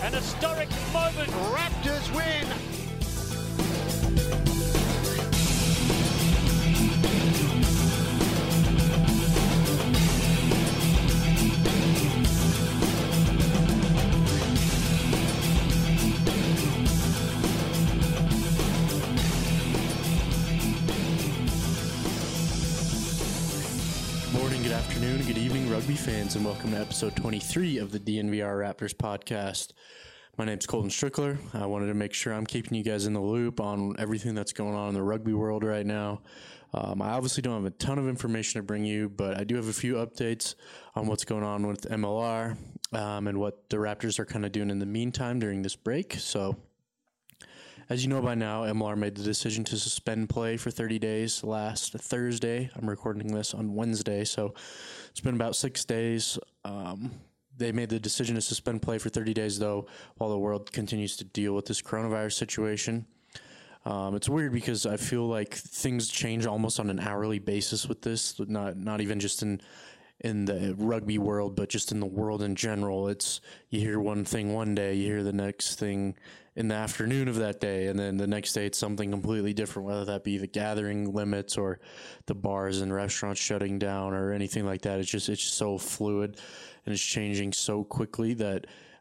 An historic moment. Raptors win. Good afternoon, good evening, rugby fans, and welcome to episode 23 of the DNVR Raptors podcast. My name's Colton Strickler. I wanted to make sure I'm keeping you guys in the loop on everything that's going on in the rugby world right now. I obviously don't have a ton of information to bring you, but I do have a few updates on what's going on with MLR and what the Raptors are kind of doing in the meantime during this break. So, as you know by now, MLR made the decision to suspend play for 30 days last Thursday. I'm recording this on Wednesday, so it's been about 6 days. They made the decision to suspend play for 30 days, though, while the world continues to deal with this coronavirus situation. It's weird because I feel like things change almost on an hourly basis with this, not even just in the rugby world, but just in the world in general. It's you hear one thing one day, you hear the next thing in the afternoon of that day, and then the next day it's something completely different, whether that be the gathering limits or the bars and restaurants shutting down or anything like that. It's just so fluid and it's changing so quickly that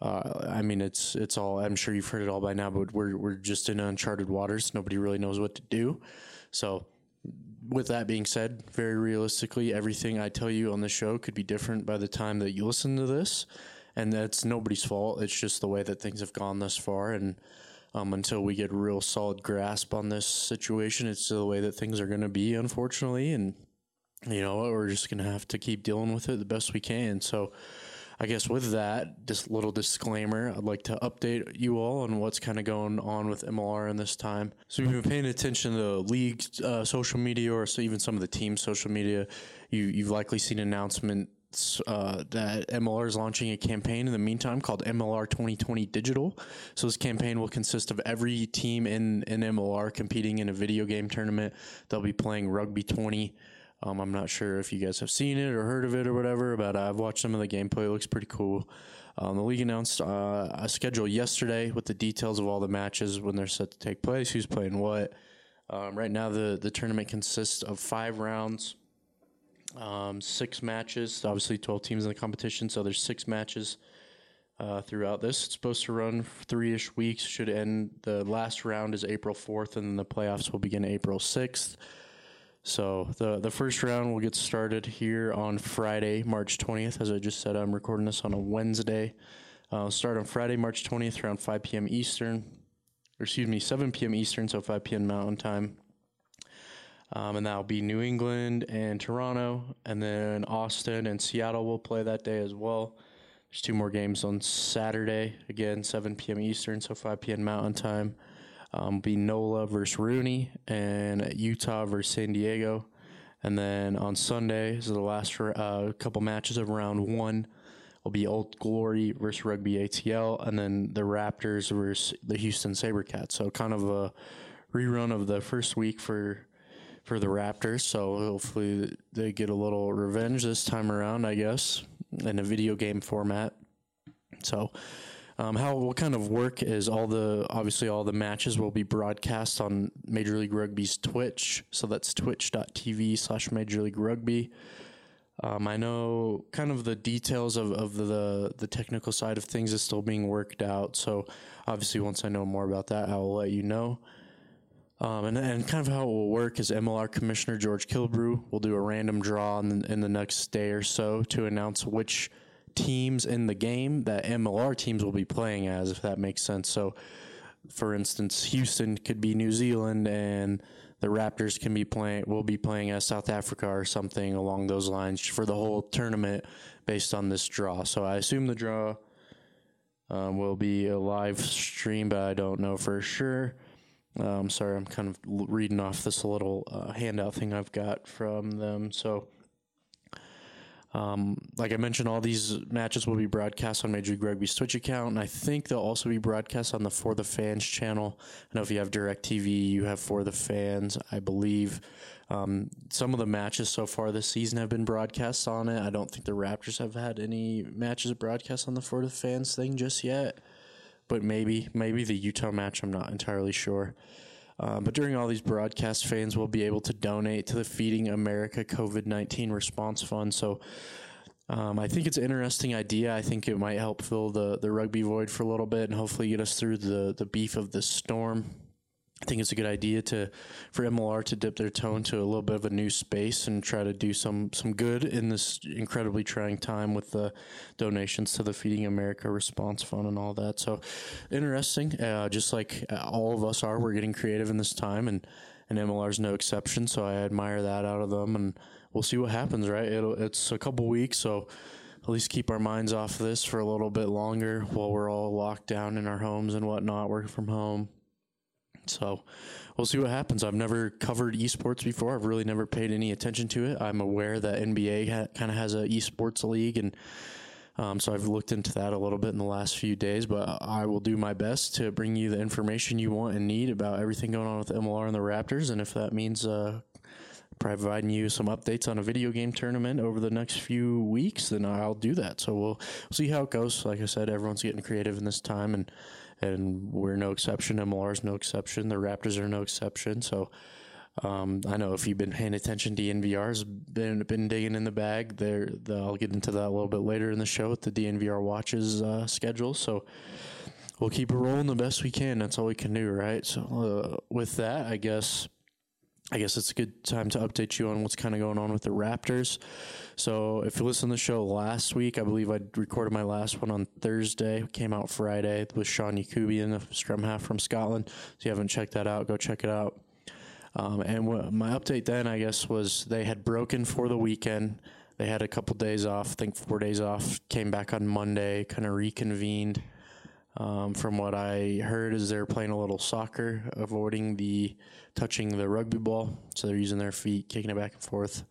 it's all, I'm sure you've heard it all by now, but we're just in uncharted waters. Nobody really knows what to do. So with that being said, very realistically, everything I tell you on the show could be different by the time that you listen to this, and that's nobody's fault. It's just the way that things have gone thus far, and until we get a real solid grasp on this situation, it's the way that things are going to be, unfortunately, and you know what, we're just going to have to keep dealing with it the best we can. So I guess with that, just little disclaimer, I'd like to update you all on what's kind of going on with MLR in this time. So if you've been paying attention to the league social media or so even some of the team's social media, you've likely seen announcements that MLR is launching a campaign in the meantime called MLR 2020 Digital. So this campaign will consist of every team in MLR competing in a video game tournament. They'll be playing Rugby 20. I'm not sure if you guys have seen it or heard of it or whatever, but I've watched some of the gameplay. It looks pretty cool. The league announced a schedule yesterday with the details of all the matches when they're set to take place, who's playing what. Right now, the tournament consists of 5 rounds, 6 matches, obviously 12 teams in the competition, so there's 6 matches throughout this. It's supposed to run 3-ish weeks, should end. The last round is April 4th, and then the playoffs will begin April 6th. So the first round will get started here on Friday, March 20th. As I just said, I'm recording this on a Wednesday. Start on Friday, March 20th, around 5 p.m. Eastern. 7 p.m. Eastern, so 5 p.m. Mountain Time. And that'll be New England and Toronto, and then Austin and Seattle will play that day as well. There's 2 more games on Saturday, again, 7 p.m. Eastern, so 5 p.m. Mountain Time. Be NOLA versus Rooney and Utah versus San Diego. And then on Sunday, is the last couple matches of round 1, will be Old Glory versus Rugby ATL, and then the Raptors versus the Houston SaberCats. So kind of a rerun of the first week for the Raptors. So hopefully they get a little revenge this time around, I guess, in a video game format. So how it will kind of work is all the matches will be broadcast on Major League Rugby's Twitch. So that's twitch.tv/Major League Rugby. I know kind of the details of the technical side of things is still being worked out. So obviously once I know more about that, I will let you know. And kind of how it will work is MLR Commissioner George Kilbrew will do a random draw in the next day or so to announce which teams in the game that MLR teams will be playing as, if that makes sense. So, for instance, Houston could be New Zealand, and the Raptors will be playing as South Africa or something along those lines for the whole tournament based on this draw. So I assume the draw will be a live stream, but I don't know for sure. Sorry, I'm kind of reading off this little handout thing I've got from them. So like I mentioned, all these matches will be broadcast on Major League Rugby's Twitch account, and I think they'll also be broadcast on the For the Fans channel. I know if you have DirecTV, you have For the Fans, I believe. Some of the matches so far this season have been broadcast on it. I don't think the Raptors have had any matches broadcast on the For the Fans thing just yet. but maybe the Utah match. I'm not entirely sure. But during all these broadcasts, fans will be able to donate to the Feeding America COVID-19 Response Fund. So I think it's an interesting idea. I think it might help fill the rugby void for a little bit and hopefully get us through the beef of the storm. I think it's a good idea for MLR to dip their toe into a little bit of a new space and try to do some good in this incredibly trying time with the donations to the Feeding America Response Fund and all that. So interesting. Just like all of us are, we're getting creative in this time, and MLR's no exception. So I admire that out of them, and we'll see what happens, right? It's a couple weeks, so at least keep our minds off this for a little bit longer while we're all locked down in our homes and whatnot, working from home. So we'll see what happens. I've never covered esports before. I've really never paid any attention to it. I'm aware that NBA kind of has an esports league, and so I've looked into that a little bit in the last few days, but I will do my best to bring you the information you want and need about everything going on with MLR and the Raptors, and if that means providing you some updates on a video game tournament over the next few weeks, then I'll do that. So we'll see how it goes. Like I said, everyone's getting creative in this time, and we're no exception. MLR is no exception. The Raptors are no exception. So I know if you've been paying attention, DNVR's been digging in the bag. I'll get into that a little bit later in the show with the DNVR watches schedule. So we'll keep it rolling the best we can. That's all we can do, right? So with that, I guess it's a good time to update you on what's kind of going on with the Raptors. So if you listened to the show last week, I believe I recorded my last one on Thursday. It came out Friday with Sean Yakubian, a scrum half from Scotland. If you haven't checked that out, go check it out. And my update then, I guess, was they had broken for the weekend. They had a couple days off, I think 4 days off, came back on Monday, kind of reconvened. From what I heard is they're playing a little soccer, avoiding touching the rugby ball. So they're using their feet, kicking it back and forth.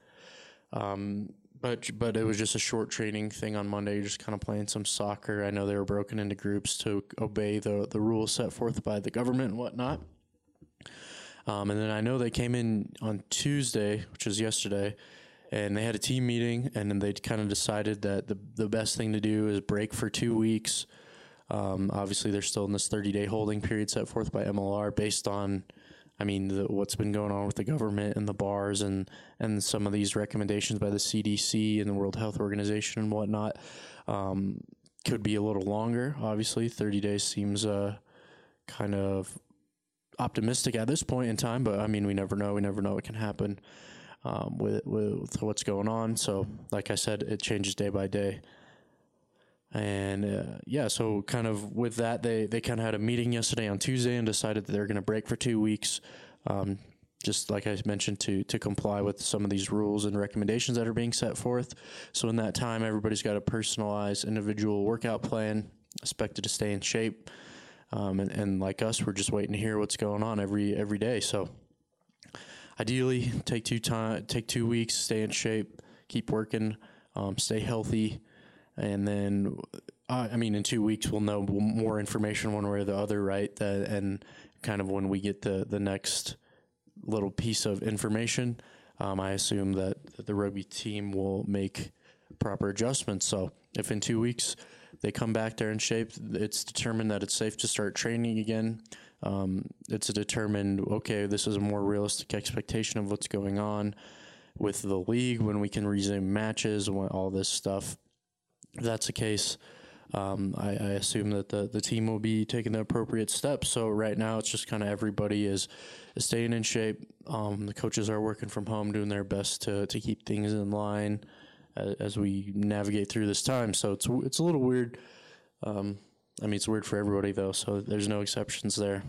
But it was just a short training thing on Monday, just kind of playing some soccer. I know they were broken into groups to obey the rules set forth by the government and whatnot. And then I know they came in on Tuesday, which was yesterday, and they had a team meeting, and then they kind of decided that the best thing to do is break for 2 weeks. Obviously, they're still in this 30-day holding period set forth by MLR based on, what's been going on with the government and the bars and some of these recommendations by the CDC and the World Health Organization and whatnot. Could be a little longer. Obviously, 30 days seems kind of optimistic at this point in time, but we never know. We never know what can happen with what's going on. So, like I said, it changes day by day. And so kind of with that, they kind of had a meeting yesterday on Tuesday and decided that they're going to break for 2 weeks, just like I mentioned, to comply with some of these rules and recommendations that are being set forth. So in that time, everybody's got a personalized individual workout plan, expected to stay in shape. And like us, we're just waiting to hear what's going on every day. So ideally, take 2 weeks, stay in shape, keep working, stay healthy. And then, in 2 weeks, we'll know more information one way or the other, right? And kind of when we get the next little piece of information, I assume that the rugby team will make proper adjustments. So if in 2 weeks they come back there in shape, it's determined that it's safe to start training again. It's determined, okay, this is a more realistic expectation of what's going on with the league when we can resume matches, all this stuff. If that's the case, I assume that the team will be taking the appropriate steps. So right now it's just kind of everybody is staying in shape. The coaches are working from home, doing their best to keep things in line as we navigate through this time. So it's a little weird. It's weird for everybody though, so there's no exceptions there.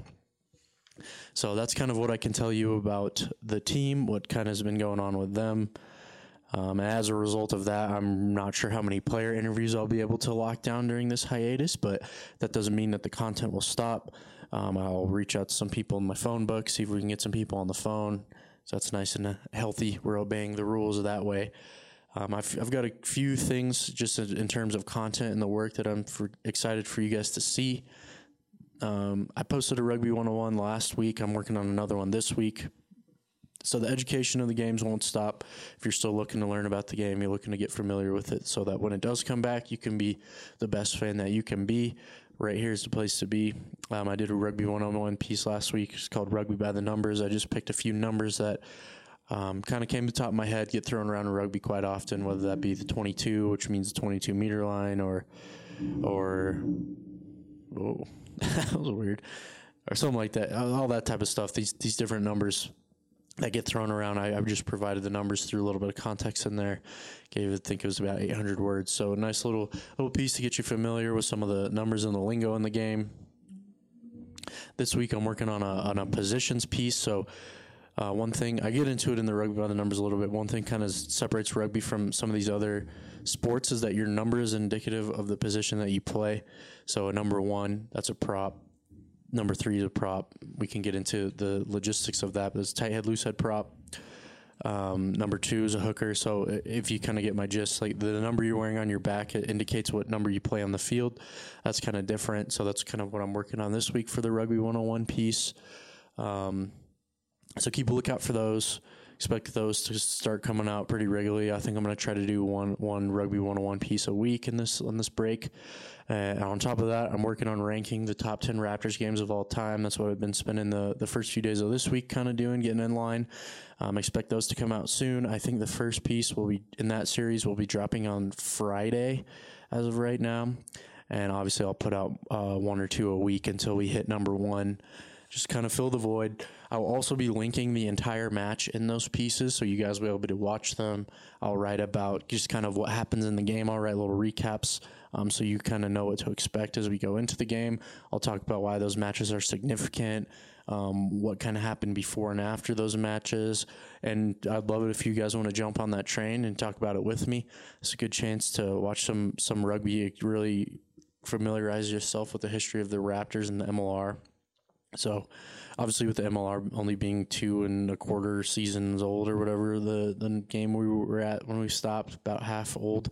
So that's kind of what I can tell you about the team, what kind of has been going on with them. As a result of that, I'm not sure how many player interviews I'll be able to lock down during this hiatus, but that doesn't mean that the content will stop. I'll reach out to some people in my phone book, see if we can get some people on the phone. So that's nice and healthy. We're obeying the rules that way. I've got a few things just in terms of content and the work that I'm excited for you guys to see. I posted a Rugby 101 last week. I'm working on another one this week. So the education of the games won't stop. If you're still looking to learn about the game, you're looking to get familiar with it so that when it does come back, you can be the best fan that you can be. right here is the place to be. I did a Rugby 101 piece last week. It's called Rugby by the Numbers. I just picked a few numbers that kind of came to the top of my head, get thrown around in rugby quite often, whether that be the 22, which means the 22-meter line, or whoa, that was weird, or something like that. All that type of stuff. These different numbers that get thrown around. I've just provided the numbers through a little bit of context in there. I think it was about 800 words. So a nice little piece to get you familiar with some of the numbers and the lingo in the game. This week I'm working on a positions piece. So one thing, I get into it in the Rugby by the Numbers a little bit. One thing kind of separates rugby from some of these other sports is that your number is indicative of the position that you play. So a number 1, that's a prop. Number 3 is a prop. We can get into the logistics of that, but it's tight head, loose head prop. Number 2 is a hooker. So if you kind of get my gist, like the number you're wearing on your back, it indicates what number you play on the field. That's kind of different. So that's kind of what I'm working on this week for the Rugby 101 piece. So keep a lookout for those. Expect those to start coming out pretty regularly. I think I'm going to try to do one Rugby 101 piece a week on this break. And on top of that, I'm working on ranking the top 10 Raptors games of all time. That's what I've been spending the first few days of this week kind of doing, getting in line. Expect those to come out soon. I think the first piece will be in that series will be dropping on Friday as of right now. And obviously I'll put out 1 or 2 a week until we hit number 1. Just kind of fill the void. I'll also be linking the entire match in those pieces, so you guys will be able to watch them. I'll write about just kind of what happens in the game. I'll write little recaps so you kind of know what to expect as we go into the game. I'll talk about why those matches are significant, what kind of happened before and after those matches, and I'd love it if you guys want to jump on that train and talk about it with me. It's a good chance to watch some rugby, really familiarize yourself with the history of the Raptors and the MLR. So obviously with the MLR only being 2 1/4 seasons old or whatever, the game we were at when we stopped, about half old,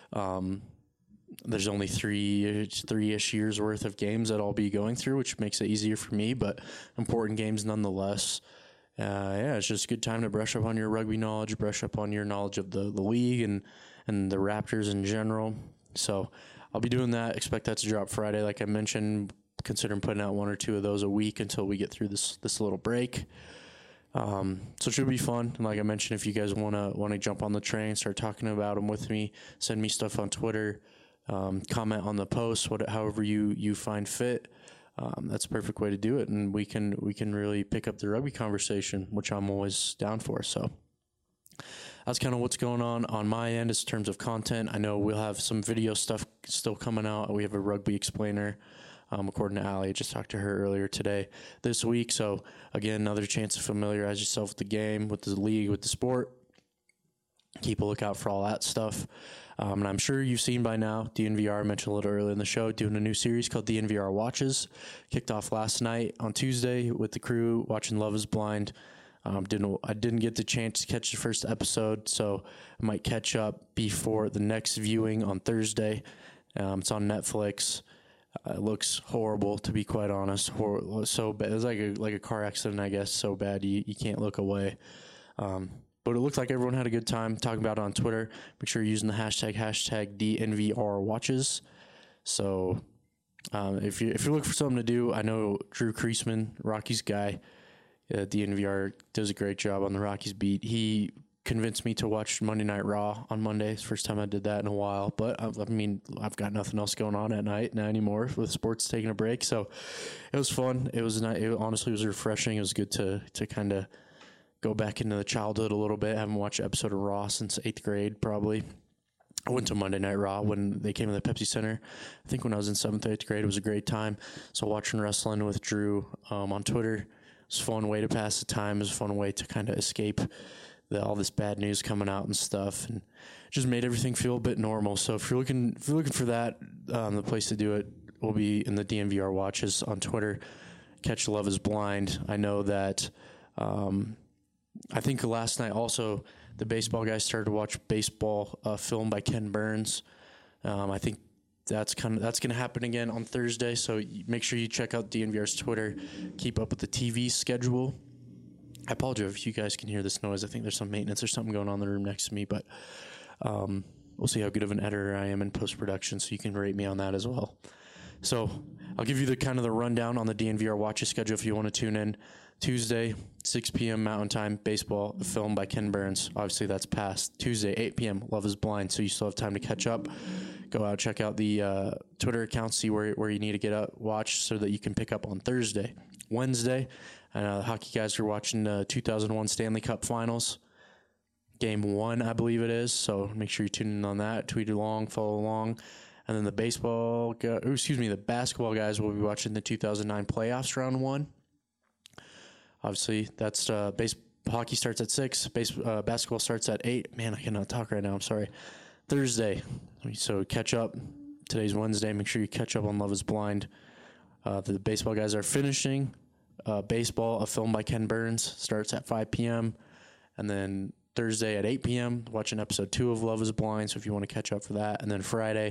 there's only three-ish years worth of games that I'll be going through, which makes it easier for me, but important games nonetheless. It's just a good time to brush up on your rugby knowledge, brush up on your knowledge of the league and the Raptors in general. So I'll be doing that. Expect that to drop Friday, like I mentioned. Considering putting out 1 or 2 of those a week until we get through this little break. So it should be fun. And like I mentioned, if you guys want to jump on the train, start talking about them with me, send me stuff on Twitter, comment on the post, however you find fit. That's a perfect way to do it, and we can really pick up the rugby conversation, which I'm always down for. So that's kind of what's going on my end in terms of content. I know we'll have some video stuff still coming out. We have a rugby explainer. According to Allie, I just talked to her earlier this week. So again, another chance to familiarize yourself with the game, with the league, with the sport. Keep a lookout for all that stuff. And I'm sure you've seen by now, DNVR, I mentioned a little earlier in the show, doing a new series called DNVR Watches. Kicked off last night on Tuesday with the crew watching Love is Blind. I didn't get the chance to catch the first episode, so I might catch up before the next viewing on Thursday. It's on Netflix. It looks horrible, to be quite honest. So bad. It was like a car accident, I guess. So bad you can't look away. But it looked like everyone had a good time talking about it on Twitter. Make sure you're using the hashtag DNVR Watches. So if you're looking for something to do, I know Drew Kreisman, Rockies guy, DNVR does a great job on the Rockies beat. He convinced me to watch Monday Night Raw on Monday. It's the first time I did that in a while, but I've got nothing else going on at night now anymore with sports taking a break. So it was fun. It was nice. It honestly was refreshing. It was good to kind of go back into the childhood a little bit. I haven't watched an episode of Raw since 8th grade, probably. I went to Monday Night Raw when they came to the Pepsi Center. I think when I was in 7th, 8th grade, it was a great time. So watching wrestling with Drew on Twitter was a fun way to pass the time. It was a fun way to kind of escape all this bad news coming out and stuff, and just made everything feel a bit normal. So if you're looking for that, the place to do it will be in the DNVR Watches on Twitter. Catch Love is Blind. I know that I think last night also the baseball guys started to watch baseball film by Ken Burns. I think that's going to happen again on Thursday. So make sure you check out DNVR's Twitter. Keep up with the TV schedule. I apologize if you guys can hear this noise. I think there's some maintenance or something going on in the room next to me, but we'll see how good of an editor I am in post-production, so you can rate me on that as well. So I'll give you the kind of the rundown on the DNVR Watches schedule if you want to tune in. Tuesday, 6 p.m. Mountain Time, baseball, a film by Ken Burns. Obviously, that's past. Tuesday, 8 p.m., Love is Blind, so you still have time to catch up. Go out, check out the Twitter account, see where you need to get up, watch so that you can pick up on Thursday. Wednesday, the hockey guys are watching the 2001 Stanley Cup Finals. Game 1, I believe it is, so make sure you tune in on that. Tweet along, follow along. And then the basketball guys will be watching the 2009 playoffs round 1. Obviously, that's hockey starts at 6. Basketball starts at 8. Man, I cannot talk right now. I'm sorry. Thursday. So catch up. Today's Wednesday. Make sure you catch up on Love is Blind. The baseball guys are finishing. Baseball, a film by Ken Burns, starts at 5 p.m. And then Thursday at 8 p.m., watching episode 2 of Love is Blind. So if you want to catch up for that. And then Friday,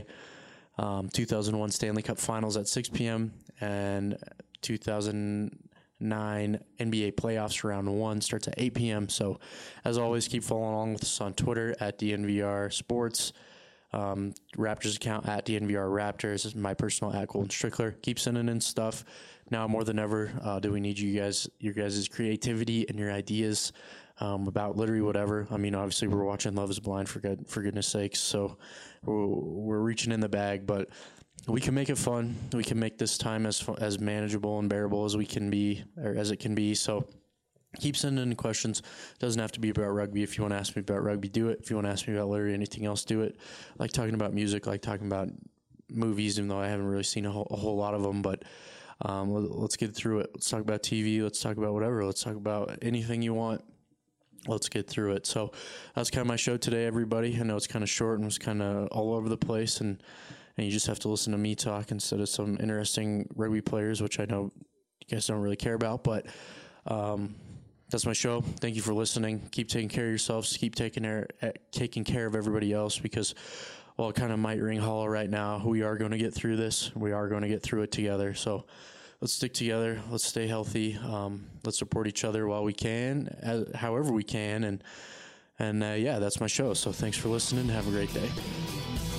2001 Stanley Cup Finals at 6 p.m. And 2009 NBA playoffs round 1 starts at 8 p.m. So as always, keep following along with us on Twitter at DNVR Sports, Raptors account at DNVR Raptors, is my personal at Colton Strickler. Keep sending in stuff. Now more than ever, do we need your guys' creativity and your ideas about literally whatever. I mean, obviously we're watching Love is Blind for goodness sakes, so we're reaching in the bag, but we can make it fun. We can make this time as manageable and bearable as we can be, or as it can be. So keep sending in questions. It doesn't have to be about rugby. If you want to ask me about rugby, do it. If you want to ask me about literally anything else, do it. I like talking about music, I like talking about movies, even though I haven't really seen a whole lot of them, but let's get through it. Let's talk about TV. Let's talk about whatever. Let's talk about anything you want. Let's get through it. So that's kind of my show today, everybody. I know it's kind of short and it's kind of all over the place, and you just have to listen to me talk instead of some interesting rugby players, which I know you guys don't really care about, but that's my show. Thank you for listening. Keep taking care of yourselves. Keep taking care of everybody else, because while it kind of might ring hollow right now, we are going to get through this. We are going to get through it together. So let's stick together. Let's stay healthy. Let's support each other while we can, however we can. And yeah, that's my show. So thanks for listening. Have a great day.